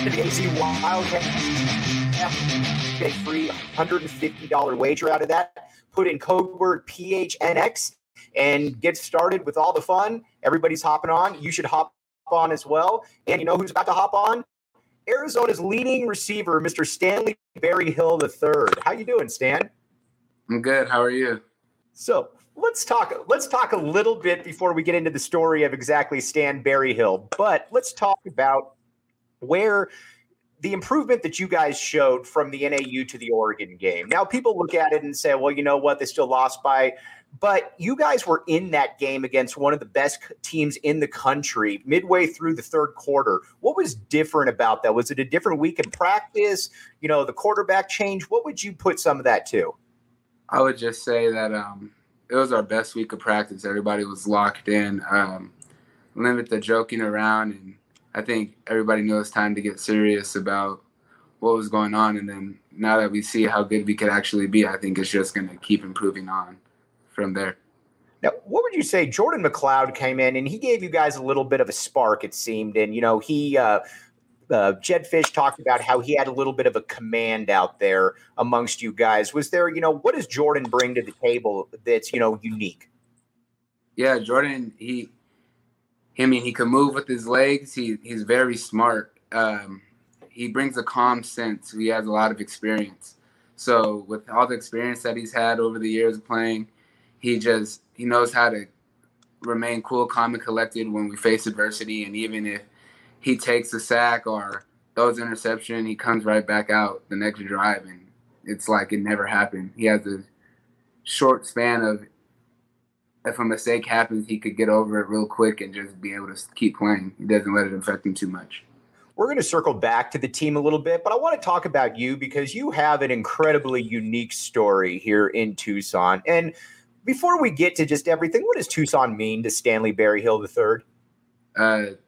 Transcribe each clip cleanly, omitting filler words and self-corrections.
the AZ Wildcat. Get a free $150 wager out of that. Put in code word PHNX and get started with all the fun. Everybody's hopping on. You should hop on as well. And you know who's about to hop on? Arizona's leading receiver, Mr. Stanley Berryhill III. How you doing, Stan? I'm good. How are you? So let's talk a little bit before we get into the story of exactly Stan Berryhill. But let's talk about where the improvement that you guys showed from the NAU to the Oregon game. Now, people look at it and say, well, you know what? They still lost by. But you guys were in that game against one of the best teams in the country midway through the third quarter. What was different about that? Was it a different week in practice? You know, the quarterback change? What would you put some of that to? I would just say that it was our best week of practice. Everybody was locked in, limit the joking around, and I think everybody knew it's time to get serious about what was going on. And then now that we see how good we could actually be, I think it's just going to keep improving on from there. Now, what would you say? Jordan McLeod came in and he gave you guys a little bit of a spark, it seemed. And, you know, Jed Fish talked about how he had a little bit of a command out there amongst you guys. Was there, you know, what does Jordan bring to the table that's, you know, unique? Yeah, Jordan, he can move with his legs. He's very smart. He brings a calm sense. He has a lot of experience. So with all the experience that he's had over the years of playing, he knows how to remain cool, calm, and collected when we face adversity. And even if he takes a sack or throws an interception, he comes right back out the next drive, and it's like it never happened. He has a short span of, if a mistake happens, he could get over it real quick and just be able to keep playing. He doesn't let it affect him too much. We're going to circle back to the team a little bit, but I want to talk about you because you have an incredibly unique story here in Tucson. And before we get to just everything, what does Tucson mean to Stanley Berryhill III?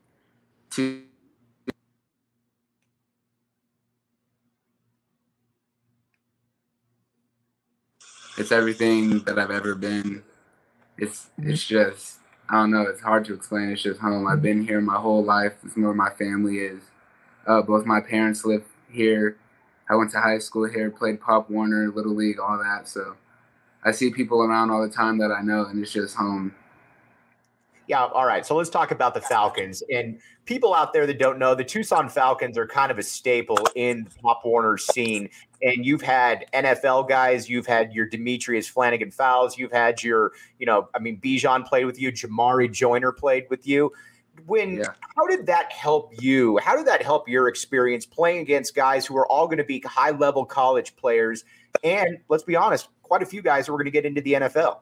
It's everything that I've ever been. It's just, I don't know, it's hard to explain. It's just home. I've been here my whole life. It's where my family is. Both my parents live here. I went to high school here, played Pop Warner, Little League, all that. So I see people around all the time that I know, and it's just home. Yeah, all right. So let's talk about the Falcons. And people out there that don't know, the Tucson Falcons are kind of a staple in the Pop Warner scene. And you've had NFL guys, you've had your Demetrius Flanagan Fowles, you've had your, you know, I mean, Bijan played with you, Jamari Joyner played with you. How did that help you? How did that help your experience playing against guys who are all going to be high-level college players? And let's be honest, quite a few guys who are going to get into the NFL.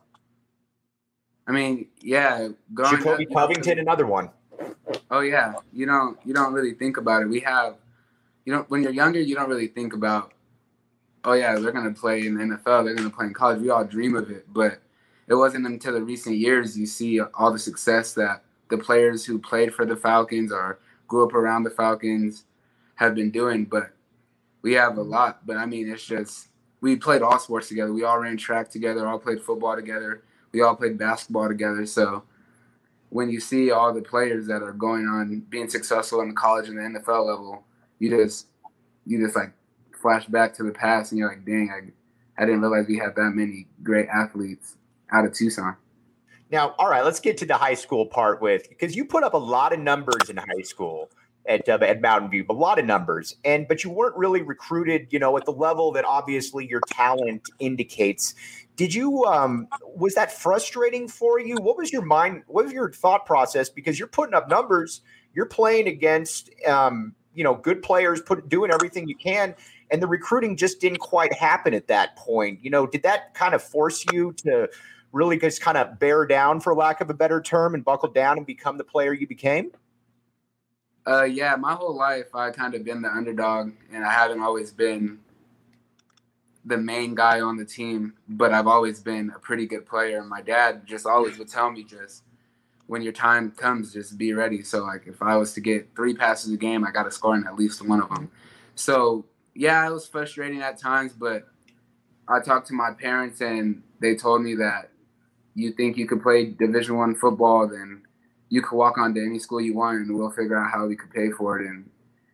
I mean, yeah. Jacoby Covington, another one. Oh yeah, you don't really think about it. When you're younger, you don't really think about, oh yeah, they're gonna play in the NFL, they're gonna play in college. We all dream of it, but it wasn't until the recent years you see all the success that the players who played for the Falcons or grew up around the Falcons have been doing. But we have a lot. But I mean, it's just we played all sports together. We all ran track together, all played football together. We all played basketball together. So when you see all the players that are going on being successful in the college and the NFL level, you just like flash back to the past and you're like, dang, I didn't realize we had that many great athletes out of Tucson. Now, all right, let's get to the high school part because you put up a lot of numbers in high school at Mountain View, a lot of numbers, but you weren't really recruited, you know, at the level that obviously your talent indicates. Did you, was that frustrating for you? What was your mind? What was your thought process? Because you're putting up numbers, you're playing against, you know, good players, doing everything you can, and the recruiting just didn't quite happen at that point. You know, did that kind of force you to really just kind of bear down, for lack of a better term, and buckle down and become the player you became? Yeah, my whole life I kind of been the underdog, and I haven't always been the main guy on the team, but I've always been a pretty good player. My dad just always would tell me, just when your time comes, just be ready. So like if I was to get 3 passes a game, I got to score in at least one of them. So yeah, it was frustrating at times, but I talked to my parents and they told me that you think you could play Division I football, then you could walk on to any school you want and we'll figure out how we could pay for it. And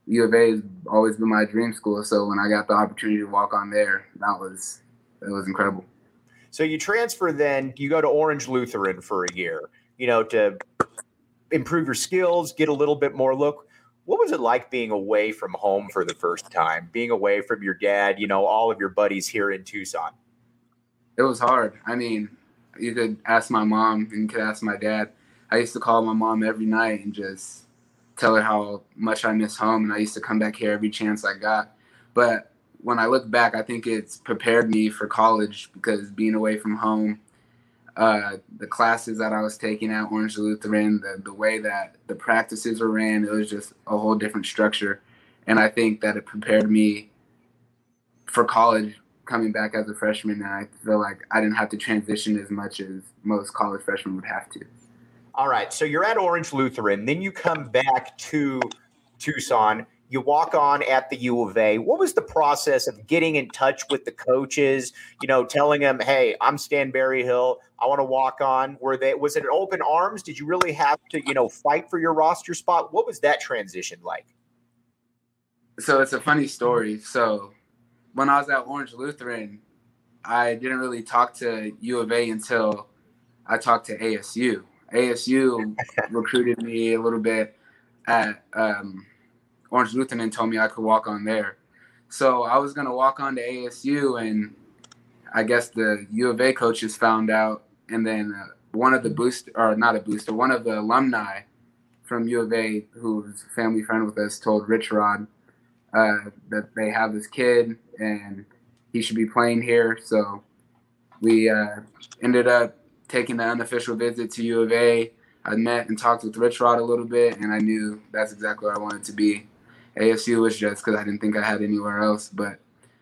U of A has always been my dream school. So when I got the opportunity to walk on there, it was incredible. So you transfer, then you go to Orange Lutheran for a year, to improve your skills, get a little bit more look. What was it like being away from home for the first time, being away from your dad, all of your buddies here in Tucson? It was hard. I mean, you could ask my mom and you could ask my dad. I used to call my mom every night and just tell her how much I miss home, and I used to come back here every chance I got. But when I look back, I think it's prepared me for college, because being away from home, the classes that I was taking at Orange Lutheran, the way that the practices were ran, it was just a whole different structure. And I think that it prepared me for college coming back as a freshman, and I feel like I didn't have to transition as much as most college freshmen would have to. All right, so you're at Orange Lutheran, then you come back to Tucson. You walk on at the U of A. What was the process of getting in touch with the coaches, telling them, hey, I'm Stan Berryhill, I want to walk on? Was it an open arms? Did you really have to, fight for your roster spot? What was that transition like? So it's a funny story. So when I was at Orange Lutheran, I didn't really talk to U of A until I talked to ASU. ASU recruited me a little bit at Orange Lutheran and told me I could walk on there. So I was going to walk on to ASU, and I guess the U of A coaches found out, and then one of the alumni from U of A, who's a family friend with us, told Rich Rod that they have this kid and he should be playing here. So we ended up taking the unofficial visit to U of A. I met and talked with Rich Rod a little bit, and I knew that's exactly where I wanted to be. ASU was just because I didn't think I had anywhere else, but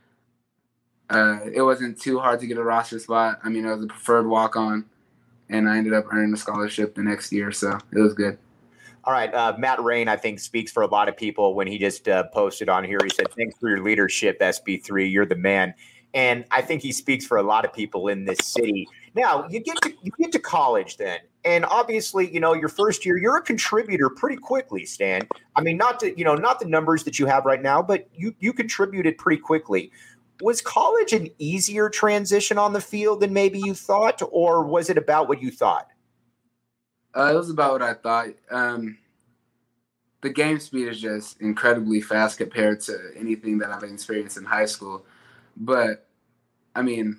it wasn't too hard to get a roster spot. I mean, I was a preferred walk-on, and I ended up earning a scholarship the next year, so it was good. All right, Matt Rain, I think, speaks for a lot of people when he just posted on here. He said, thanks for your leadership, SB3. You're the man. And I think he speaks for a lot of people in this city. Now, you get to college then. And obviously, your first year, you're a contributor pretty quickly, Stan. I mean, not the numbers that you have right now, but you contributed pretty quickly. Was college an easier transition on the field than maybe you thought, or was it about what you thought? It was about what I thought. The game speed is just incredibly fast compared to anything that I've experienced in high school. But, I mean,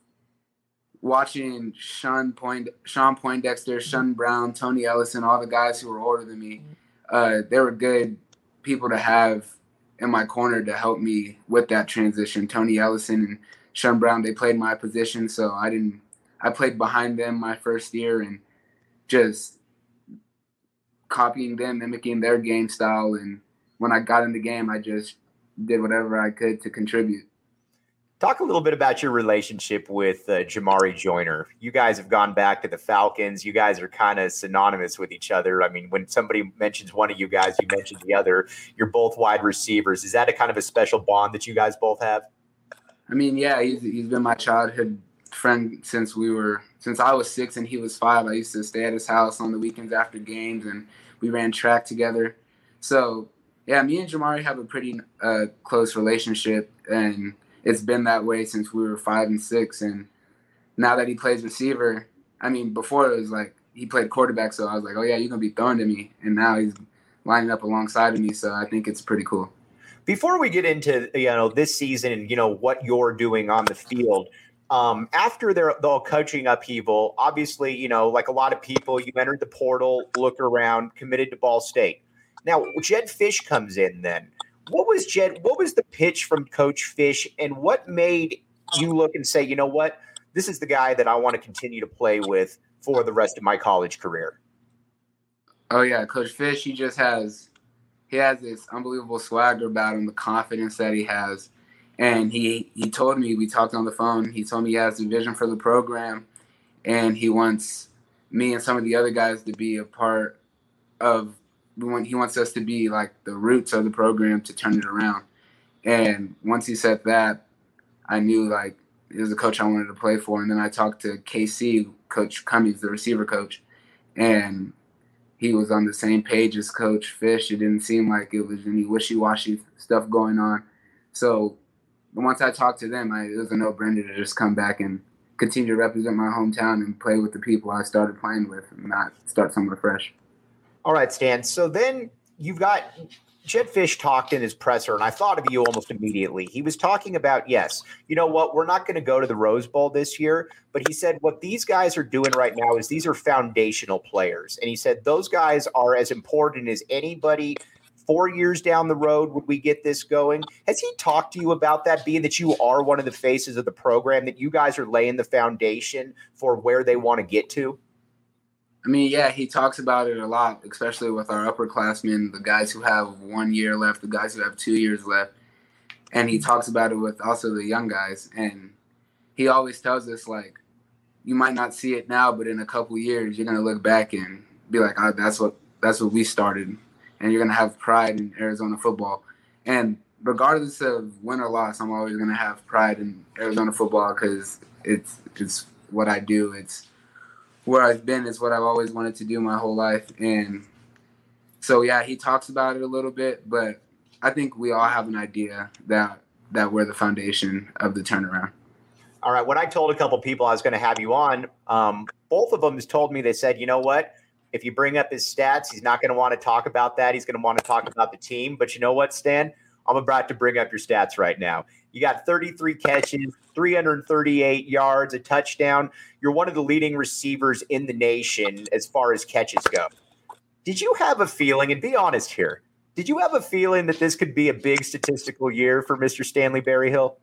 watching Sean Poindexter, Sean Brown, Tony Ellison, all the guys who were older than me, they were good people to have in my corner to help me with that transition. Tony Ellison and Sean Brown, they played my position, so I played behind them my first year and just copying them, mimicking their game style. And when I got in the game, I just did whatever I could to contribute. Talk a little bit about your relationship with Jamari Joyner. You guys have gone back to the Falcons. You guys are kind of synonymous with each other. I mean, when somebody mentions one of you guys, you mention the other. You're both wide receivers. Is that a kind of a special bond that you guys both have? I mean, yeah, he's been my childhood friend since I was 6 and he was 5. I used to stay at his house on the weekends after games, and we ran track together. So, yeah, me and Jamari have a pretty close relationship, and it's been that way since we were 5 and 6. And now that he plays receiver, I mean, before it was like he played quarterback, so I was like, oh, yeah, you're going to be throwing to me. And now he's lining up alongside of me, so I think it's pretty cool. Before we get into, this season and, what you're doing on the field, after the coaching upheaval, obviously, like a lot of people, you entered the portal, looked around, committed to Ball State. Now, Jedd Fisch comes in then. What was the pitch from Coach Fisch, and what made you look and say, you know what, this is the guy that I want to continue to play with for the rest of my college career? Oh, yeah, Coach Fisch, he has this unbelievable swagger about him, the confidence that he has. And he told me, we talked on the phone, he told me he has a vision for the program, and he wants me and some of the other guys to be a part of he wants us to be like the roots of the program to turn it around. And once he said that, I knew like it was a coach I wanted to play for. And then I talked to KC, Coach Cummings, the receiver coach, and he was on the same page as Coach Fish. It didn't seem like it was any wishy-washy stuff going on. So once I talked to them, it was a no-brainer to just come back and continue to represent my hometown and play with the people I started playing with and not start somewhere fresh. All right, Stan. So then you've got Jedd Fisch talked in his presser, and I thought of you almost immediately. He was talking about, yes, you know what, we're not going to go to the Rose Bowl this year, but he said what these guys are doing right now is these are foundational players. And he said those guys are as important as anybody 4 years down the road would we get this going. Has he talked to you about that, being that you are one of the faces of the program, that you guys are laying the foundation for where they want to get to? I mean, yeah, he talks about it a lot, especially with our upperclassmen, the guys who have 1 year left, the guys who have 2 years left. And he talks about it with also the young guys. And he always tells us, like, you might not see it now, but in a couple years, you're going to look back and be like, oh, that's what we started. And you're going to have pride in Arizona football. And regardless of win or loss, I'm always going to have pride in Arizona football because it's what I do. It's where I've been. It's what I've always wanted to do my whole life. And so, yeah, he talks about it a little bit, but I think we all have an idea that we're the foundation of the turnaround. All right. When I told a couple people I was going to have you on, both of them told me, they said, you know what? If you bring up his stats, he's not going to want to talk about that. He's going to want to talk about the team. But you know what, Stan? I'm about to bring up your stats right now. You got 33 catches, 338 yards, a touchdown. You're one of the leading receivers in the nation as far as catches go. Did you have a feeling, and be honest here, did you have a feeling that this could be a big statistical year for Mr. Stanley Berryhill?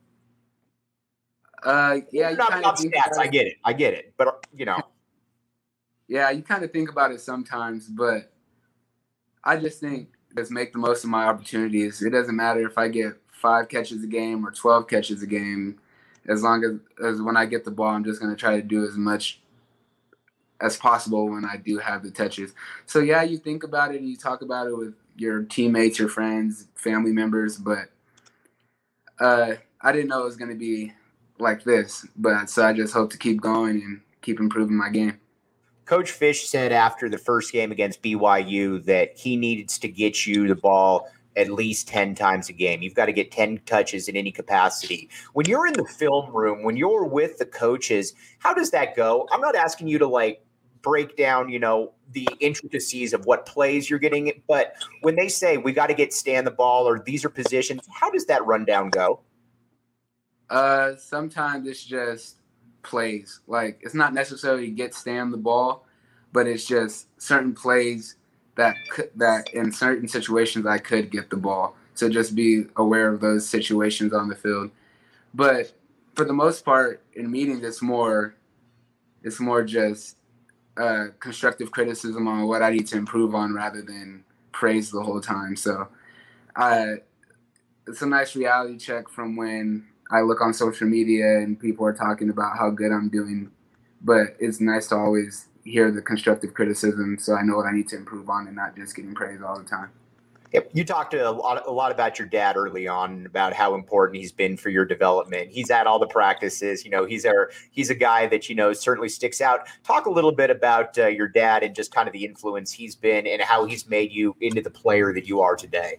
Yeah. Not about stats. I get it. But, you know. Yeah, you kind of think about it sometimes, but I just think just make the most of my opportunities. It doesn't matter if I get 5 catches a game or 12 catches a game. As long as when I get the ball, I'm just going to try to do as much as possible when I do have the touches. So, yeah, you think about it and you talk about it with your teammates, your friends, family members, but I didn't know it was going to be like this. But so I just hope to keep going and keep improving my game. Coach Fish said after the first game against BYU that he needs to get you the ball at least 10 times a game. You've got to get 10 touches in any capacity. When you're in the film room, when you're with the coaches, how does that go? I'm not asking you to like break down, you know, the intricacies of what plays you're getting, but when they say we got to get Stan the ball or these are positions, how does that rundown go? Sometimes it's just plays. Like, it's not necessarily get Stan the ball, but it's just certain plays that in certain situations I could get the ball. So just be aware of those situations on the field. But for the most part, in meetings, it's more just constructive criticism on what I need to improve on rather than praise the whole time. So it's a nice reality check from when I look on social media and people are talking about how good I'm doing, but it's nice to always hear the constructive criticism so I know what I need to improve on and not just getting praised all the time. Yep. You talked a lot about your dad early on, about how important he's been for your development. He's at all the practices. You know, he's a guy that, you know, certainly sticks out. Talk a little bit about your dad and just kind of the influence he's been and how he's made you into the player that you are today.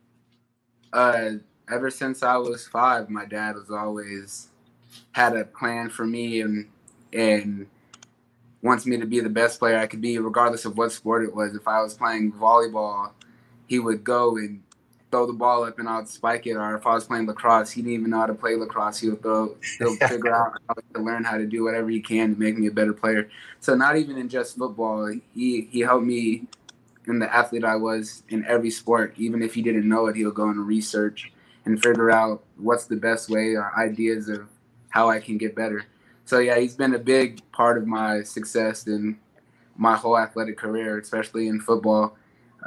Ever since I was 5, my dad was always had a plan for me and wants me to be the best player I could be, regardless of what sport it was. If I was playing volleyball, he would go and throw the ball up and I would spike it. Or if I was playing lacrosse, he didn't even know how to play lacrosse. He'll figure out how to learn how to do whatever he can to make me a better player. So not even in just football, he helped me in the athlete I was in every sport. Even if he didn't know it, he'll go and research and figure out what's the best way or ideas of how I can get better. So, yeah, he's been a big part of my success in my whole athletic career, especially in football.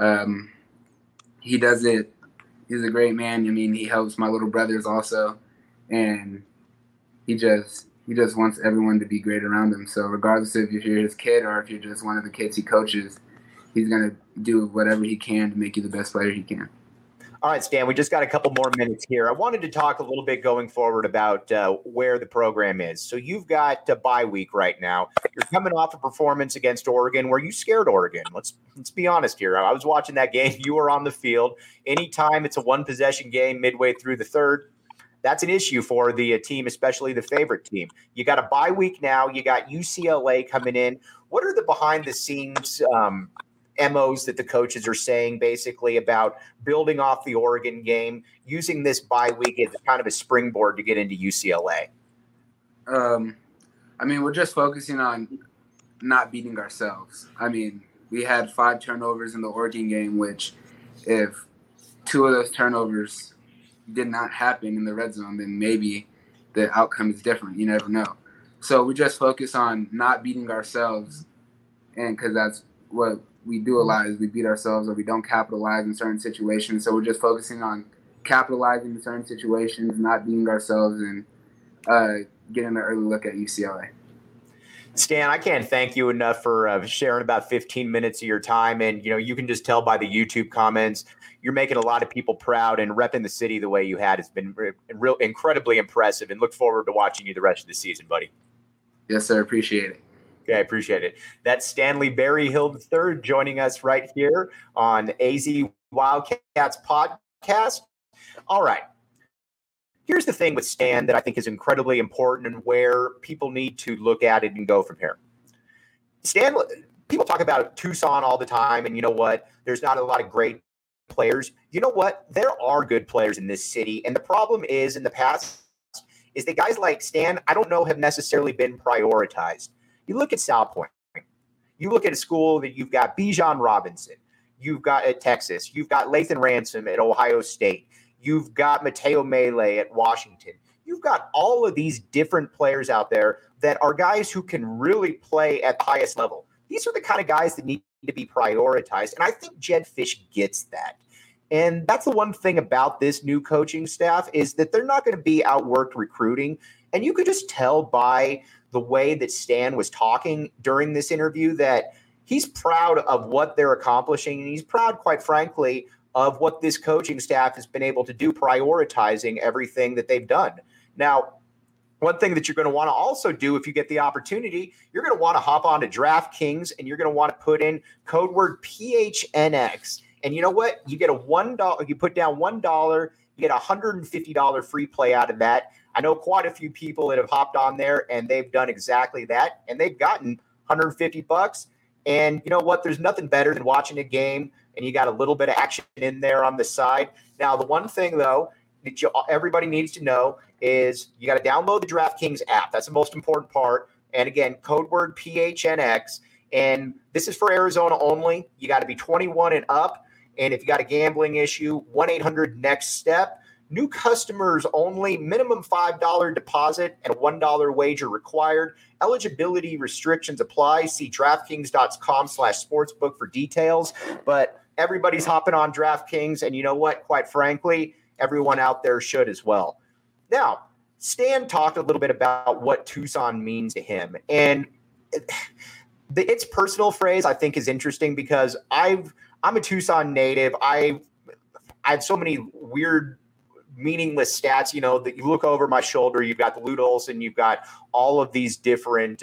He does it. He's a great man. I mean, he helps my little brothers also, and he just wants everyone to be great around him. So regardless if you're his kid or if you're just one of the kids he coaches, he's going to do whatever he can to make you the best player he can. All right, Stan, we just got a couple more minutes here. I wanted to talk a little bit going forward about where the program is. So you've got a bye week right now. You're coming off a performance against Oregon where you scared Oregon. Let's be honest here. I was watching that game. You were on the field. Anytime it's a one-possession game midway through the third, that's an issue for the team, especially the favorite team. You got a bye week now. You got UCLA coming in. What are the behind-the-scenes MOs that the coaches are saying basically about building off the Oregon game, using this bye week as kind of a springboard to get into UCLA? We're just focusing on not beating ourselves. We had 5 turnovers in the Oregon game, which if 2 of those turnovers did not happen in the red zone, then maybe the outcome is different. You never know. So we just focus on not beating ourselves, and because that's what we do a lot is we beat ourselves or we don't capitalize in certain situations. So we're just focusing on capitalizing in certain situations, not beating ourselves, and getting an early look at UCLA. Stan, I can't thank you enough for sharing about 15 minutes of your time. And, you can just tell by the YouTube comments, you're making a lot of people proud, and repping the city the way you had has been incredibly impressive, and look forward to watching you the rest of the season, buddy. Yes, sir. Appreciate it. Okay, I appreciate it. That's Stanley Berryhill III joining us right here on AZ Wildcats podcast. All right. Here's the thing with Stan that I think is incredibly important and where people need to look at it and go from here. Stan, people talk about Tucson all the time, and you know what? There's not a lot of great players. You know what? There are good players in this city, and the problem is in the past is that guys like Stan, I don't know, have necessarily been prioritized. You look at South Point. You look at a school that you've got Bijan Robinson. You've got at Texas. You've got Lathan Ransom at Ohio State. You've got Mateo Mele at Washington. You've got all of these different players out there that are guys who can really play at the highest level. These are the kind of guys that need to be prioritized. And I think Jedd Fisch gets that. And that's the one thing about this new coaching staff is that they're not going to be outworked recruiting. And you could just tell by the way that Stan was talking during this interview that he's proud of what they're accomplishing. And he's proud, quite frankly, of what this coaching staff has been able to do, prioritizing everything that they've done. Now, one thing that you're going to want to also do if you get the opportunity, you're going to want to hop on to DraftKings and you're going to want to put in code word PHNX. And you know what? You get a $1, you put down $1, you get a $150 free play out of that. I know quite a few people that have hopped on there and they've done exactly that, and they've gotten $150. And you know what? There's nothing better than watching a game and you got a little bit of action in there on the side. Now, the one thing, though, that everybody needs to know is you got to download the DraftKings app. That's the most important part. And again, code word PHNX. And this is for Arizona only. You got to be 21 and up. And if you got a gambling issue, 1-800-NEXT-STEP. New customers only, minimum $5 deposit and a $1 wager required. Eligibility restrictions apply. See DraftKings.com/sportsbook for details. But everybody's hopping on DraftKings, and you know what? Quite frankly, everyone out there should as well. Now, Stan talked a little bit about what Tucson means to him. And its personal phrase, I think, is interesting because I'm a Tucson native. I have so many weird, meaningless stats, that you look over my shoulder. You've got the Lute Olson, you've got all of these different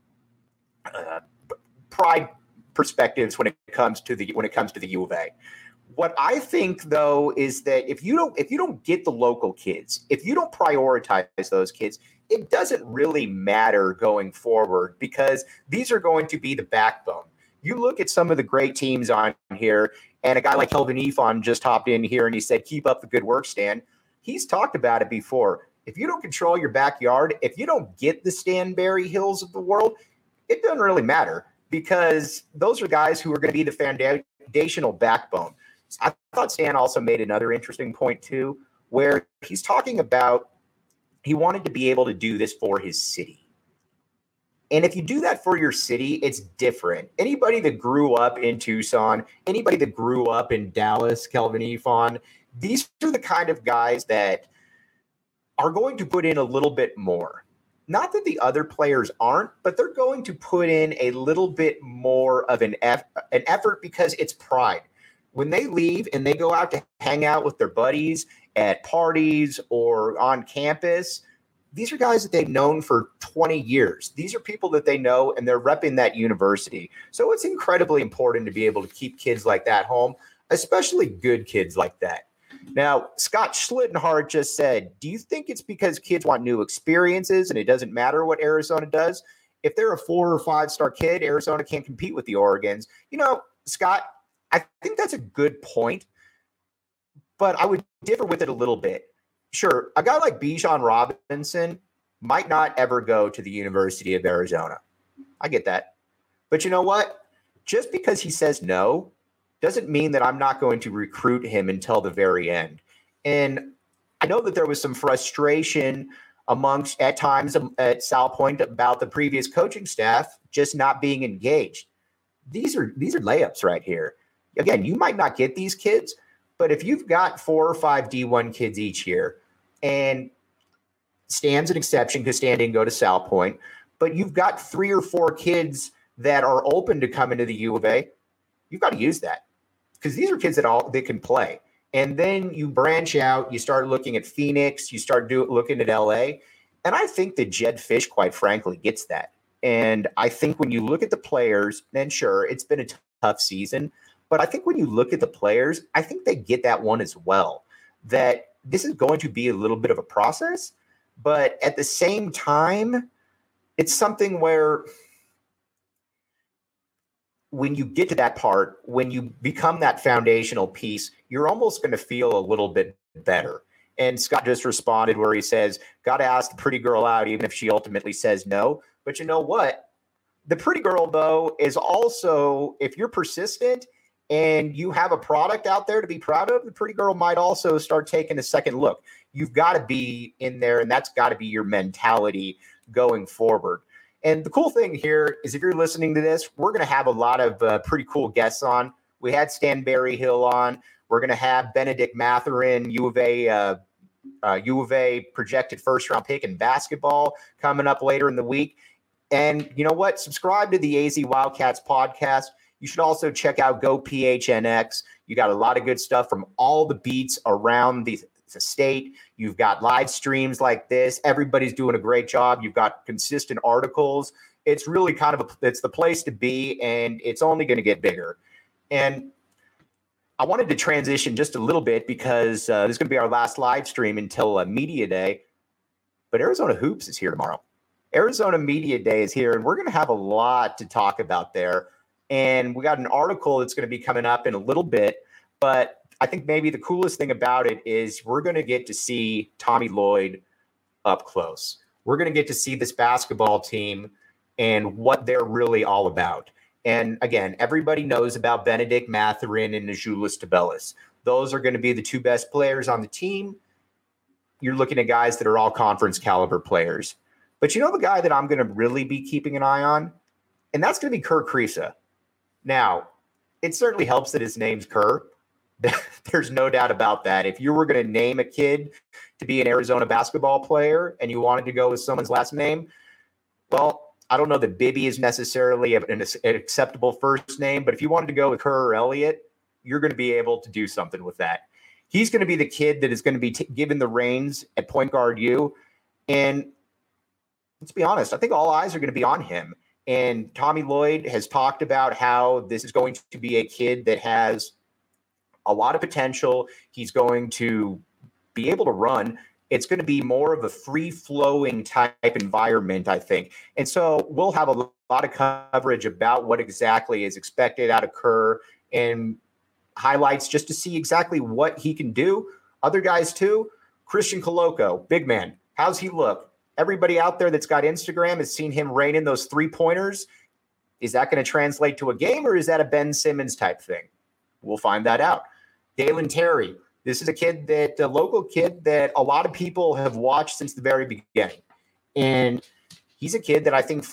pride perspectives when it comes to the U of A. What I think, though, is that if you don't get the local kids, if you don't prioritize those kids, it doesn't really matter going forward because these are going to be the backbone. You look at some of the great teams on here, and a guy like Kelvin Ifon just hopped in here and he said, "Keep up the good work, Stan." He's talked about it before. If you don't control your backyard, if you don't get the Stan Berryhills of the world, it doesn't really matter because those are guys who are going to be the foundational backbone. I thought Stan also made another interesting point too, where he's talking about he wanted to be able to do this for his city. And if you do that for your city, it's different. Anybody that grew up in Tucson, anybody that grew up in Dallas, Kelvin Ifon, these are the kind of guys that are going to put in a little bit more. Not that the other players aren't, but they're going to put in a little bit more of an effort because it's pride. when they leave and they go out to hang out with their buddies at parties or on campus, these are guys that they've known for 20 years. These are people that they know, and they're repping that university. So it's incredibly important to be able to keep kids like that home, especially good kids like that. Now, Scott Schlittenhardt just said, do you think it's because kids want new experiences and it doesn't matter what Arizona does? If they're a 4 or 5-star kid, Arizona can't compete with the Oregons. Scott, I think that's a good point, but I would differ with it a little bit. Sure, a guy like Bijan Robinson might not ever go to the University of Arizona. I get that. But you know what? Just because he says no doesn't mean that I'm not going to recruit him until the very end. And I know that there was some frustration amongst, at times, at Sal Point about the previous coaching staff just not being engaged. These are layups right here. Again, you might not get these kids, but if you've got 4 or 5 D1 kids each year, and Stan's an exception because Stan didn't go to Sal Point, but you've got 3 or 4 kids that are open to come into the U of A, you've got to use that because these are kids that can play. And then you branch out, you start looking at Phoenix, you start looking at LA. And I think that Jedd Fisch, quite frankly, gets that. And I think when you look at the players, then sure, it's been a tough season, but I think when you look at the players, I think they get that one as well, that this is going to be a little bit of a process, but at the same time, it's something where when you get to that part, when you become that foundational piece, you're almost going to feel a little bit better. And Scott just responded where he says, got to ask the pretty girl out, even if she ultimately says no. But you know what? The pretty girl, though, is also, if you're persistent and you have a product out there to be proud of, the pretty girl might also start taking a second look. You've got to be in there, and that's got to be your mentality going forward. And the cool thing here is if you're listening to this, we're going to have a lot of pretty cool guests on. We had Stan Berryhill on. We're going to have Benedict Mathurin, U of A projected first-round pick in basketball coming up later in the week. And you know what? Subscribe to the AZ Wildcats podcast. You should also check out Go PHNX. You got a lot of good stuff from all the beats around the state. You've got live streams like this. Everybody's doing a great job. You've got consistent articles. It's really it's the place to be, and it's only going to get bigger. And I wanted to transition just a little bit because this is going to be our last live stream until Media Day. But Arizona Hoops is here tomorrow. Arizona Media Day is here, and we're going to have a lot to talk about there. And we got an article that's going to be coming up in a little bit, but I think maybe the coolest thing about it is we're going to get to see Tommy Lloyd up close. We're going to get to see this basketball team and what they're really all about. And again, everybody knows about Benedict Mathurin and Azuolas Tubelis. Those are going to be the 2 best players on the team. You're looking at guys that are all conference caliber players. But you know the guy that I'm going to really be keeping an eye on? And that's going to be Kerr Kriisa. Now, it certainly helps that his name's Kerr. There's no doubt about that. If you were going to name a kid to be an Arizona basketball player and you wanted to go with someone's last name, well, I don't know that Bibby is necessarily an acceptable first name, but if you wanted to go with Kerr or Elliott, you're going to be able to do something with that. He's going to be the kid that is going to be given the reins at point guard U. And let's be honest, I think all eyes are going to be on him. And Tommy Lloyd has talked about how this is going to be a kid that has a lot of potential. He's going to be able to run. It's going to be more of a free-flowing type environment, I think. And so we'll have a lot of coverage about what exactly is expected out of Kerr and highlights just to see exactly what he can do. Other guys too. Christian Koloko, big man. How's he look? Everybody out there that's got Instagram has seen him rain in those 3-pointers. Is that going to translate to a game, or is that a Ben Simmons type thing? We'll find that out. Dalen Terry. This is a local kid that a lot of people have watched since the very beginning. And he's a kid that I think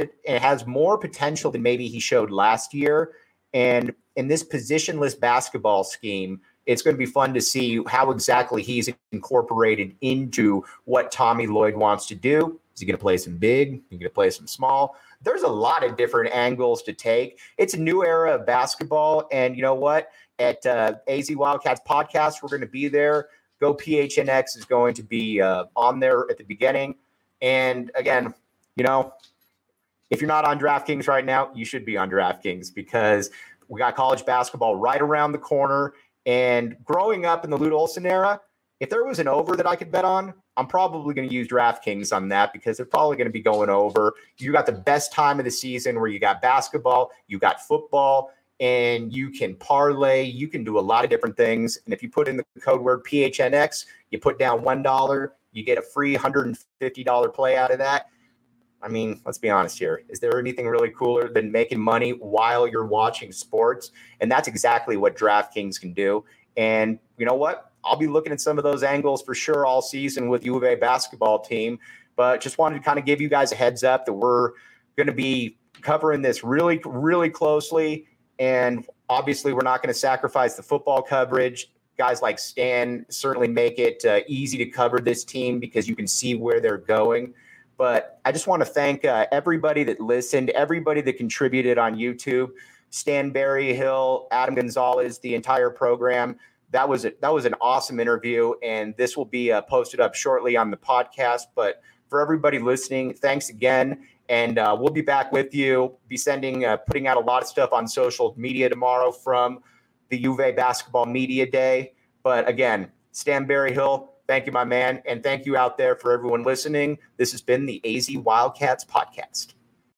has more potential than maybe he showed last year. And in this positionless basketball scheme, it's going to be fun to see how exactly he's incorporated into what Tommy Lloyd wants to do. Is he going to play some big? Is he going to play some small? there's a lot of different angles to take. It's a new era of basketball. And you know what? At AZ Wildcats podcast, we're going to be there. Go PHNX is going to be on there at the beginning. And again, you know, if you're not on DraftKings right now, you should be on DraftKings because we got college basketball right around the corner. And growing up in the Lute Olson era, if there was an over that I could bet on, I'm probably going to use DraftKings on that because they're probably going to be going over. You got the best time of the season where you got basketball, you got football, and you can parlay. You can do a lot of different things. And if you put in the code word PHNX, you put down $1, you get a free $150 play out of that. I mean, let's be honest here. Is there anything really cooler than making money while you're watching sports? And that's exactly what DraftKings can do. And you know what? I'll be looking at some of those angles for sure all season with U of A basketball team. But just wanted to kind of give you guys a heads up that we're going to be covering this really, really closely. And obviously, we're not going to sacrifice the football coverage. Guys like Stan certainly make it easy to cover this team because you can see where they're going. But I just want to thank everybody that listened, everybody that contributed on YouTube, Stan Berryhill, Adam Gonzalez, the entire program. That was an awesome interview, and this will be posted up shortly on the podcast. But for everybody listening, thanks again. And we'll be back with you, putting out a lot of stuff on social media tomorrow from the U of A Basketball Media Day. But again, Stan Berryhill, thank you, my man. And thank you out there for everyone listening. This has been the AZ Wildcats podcast.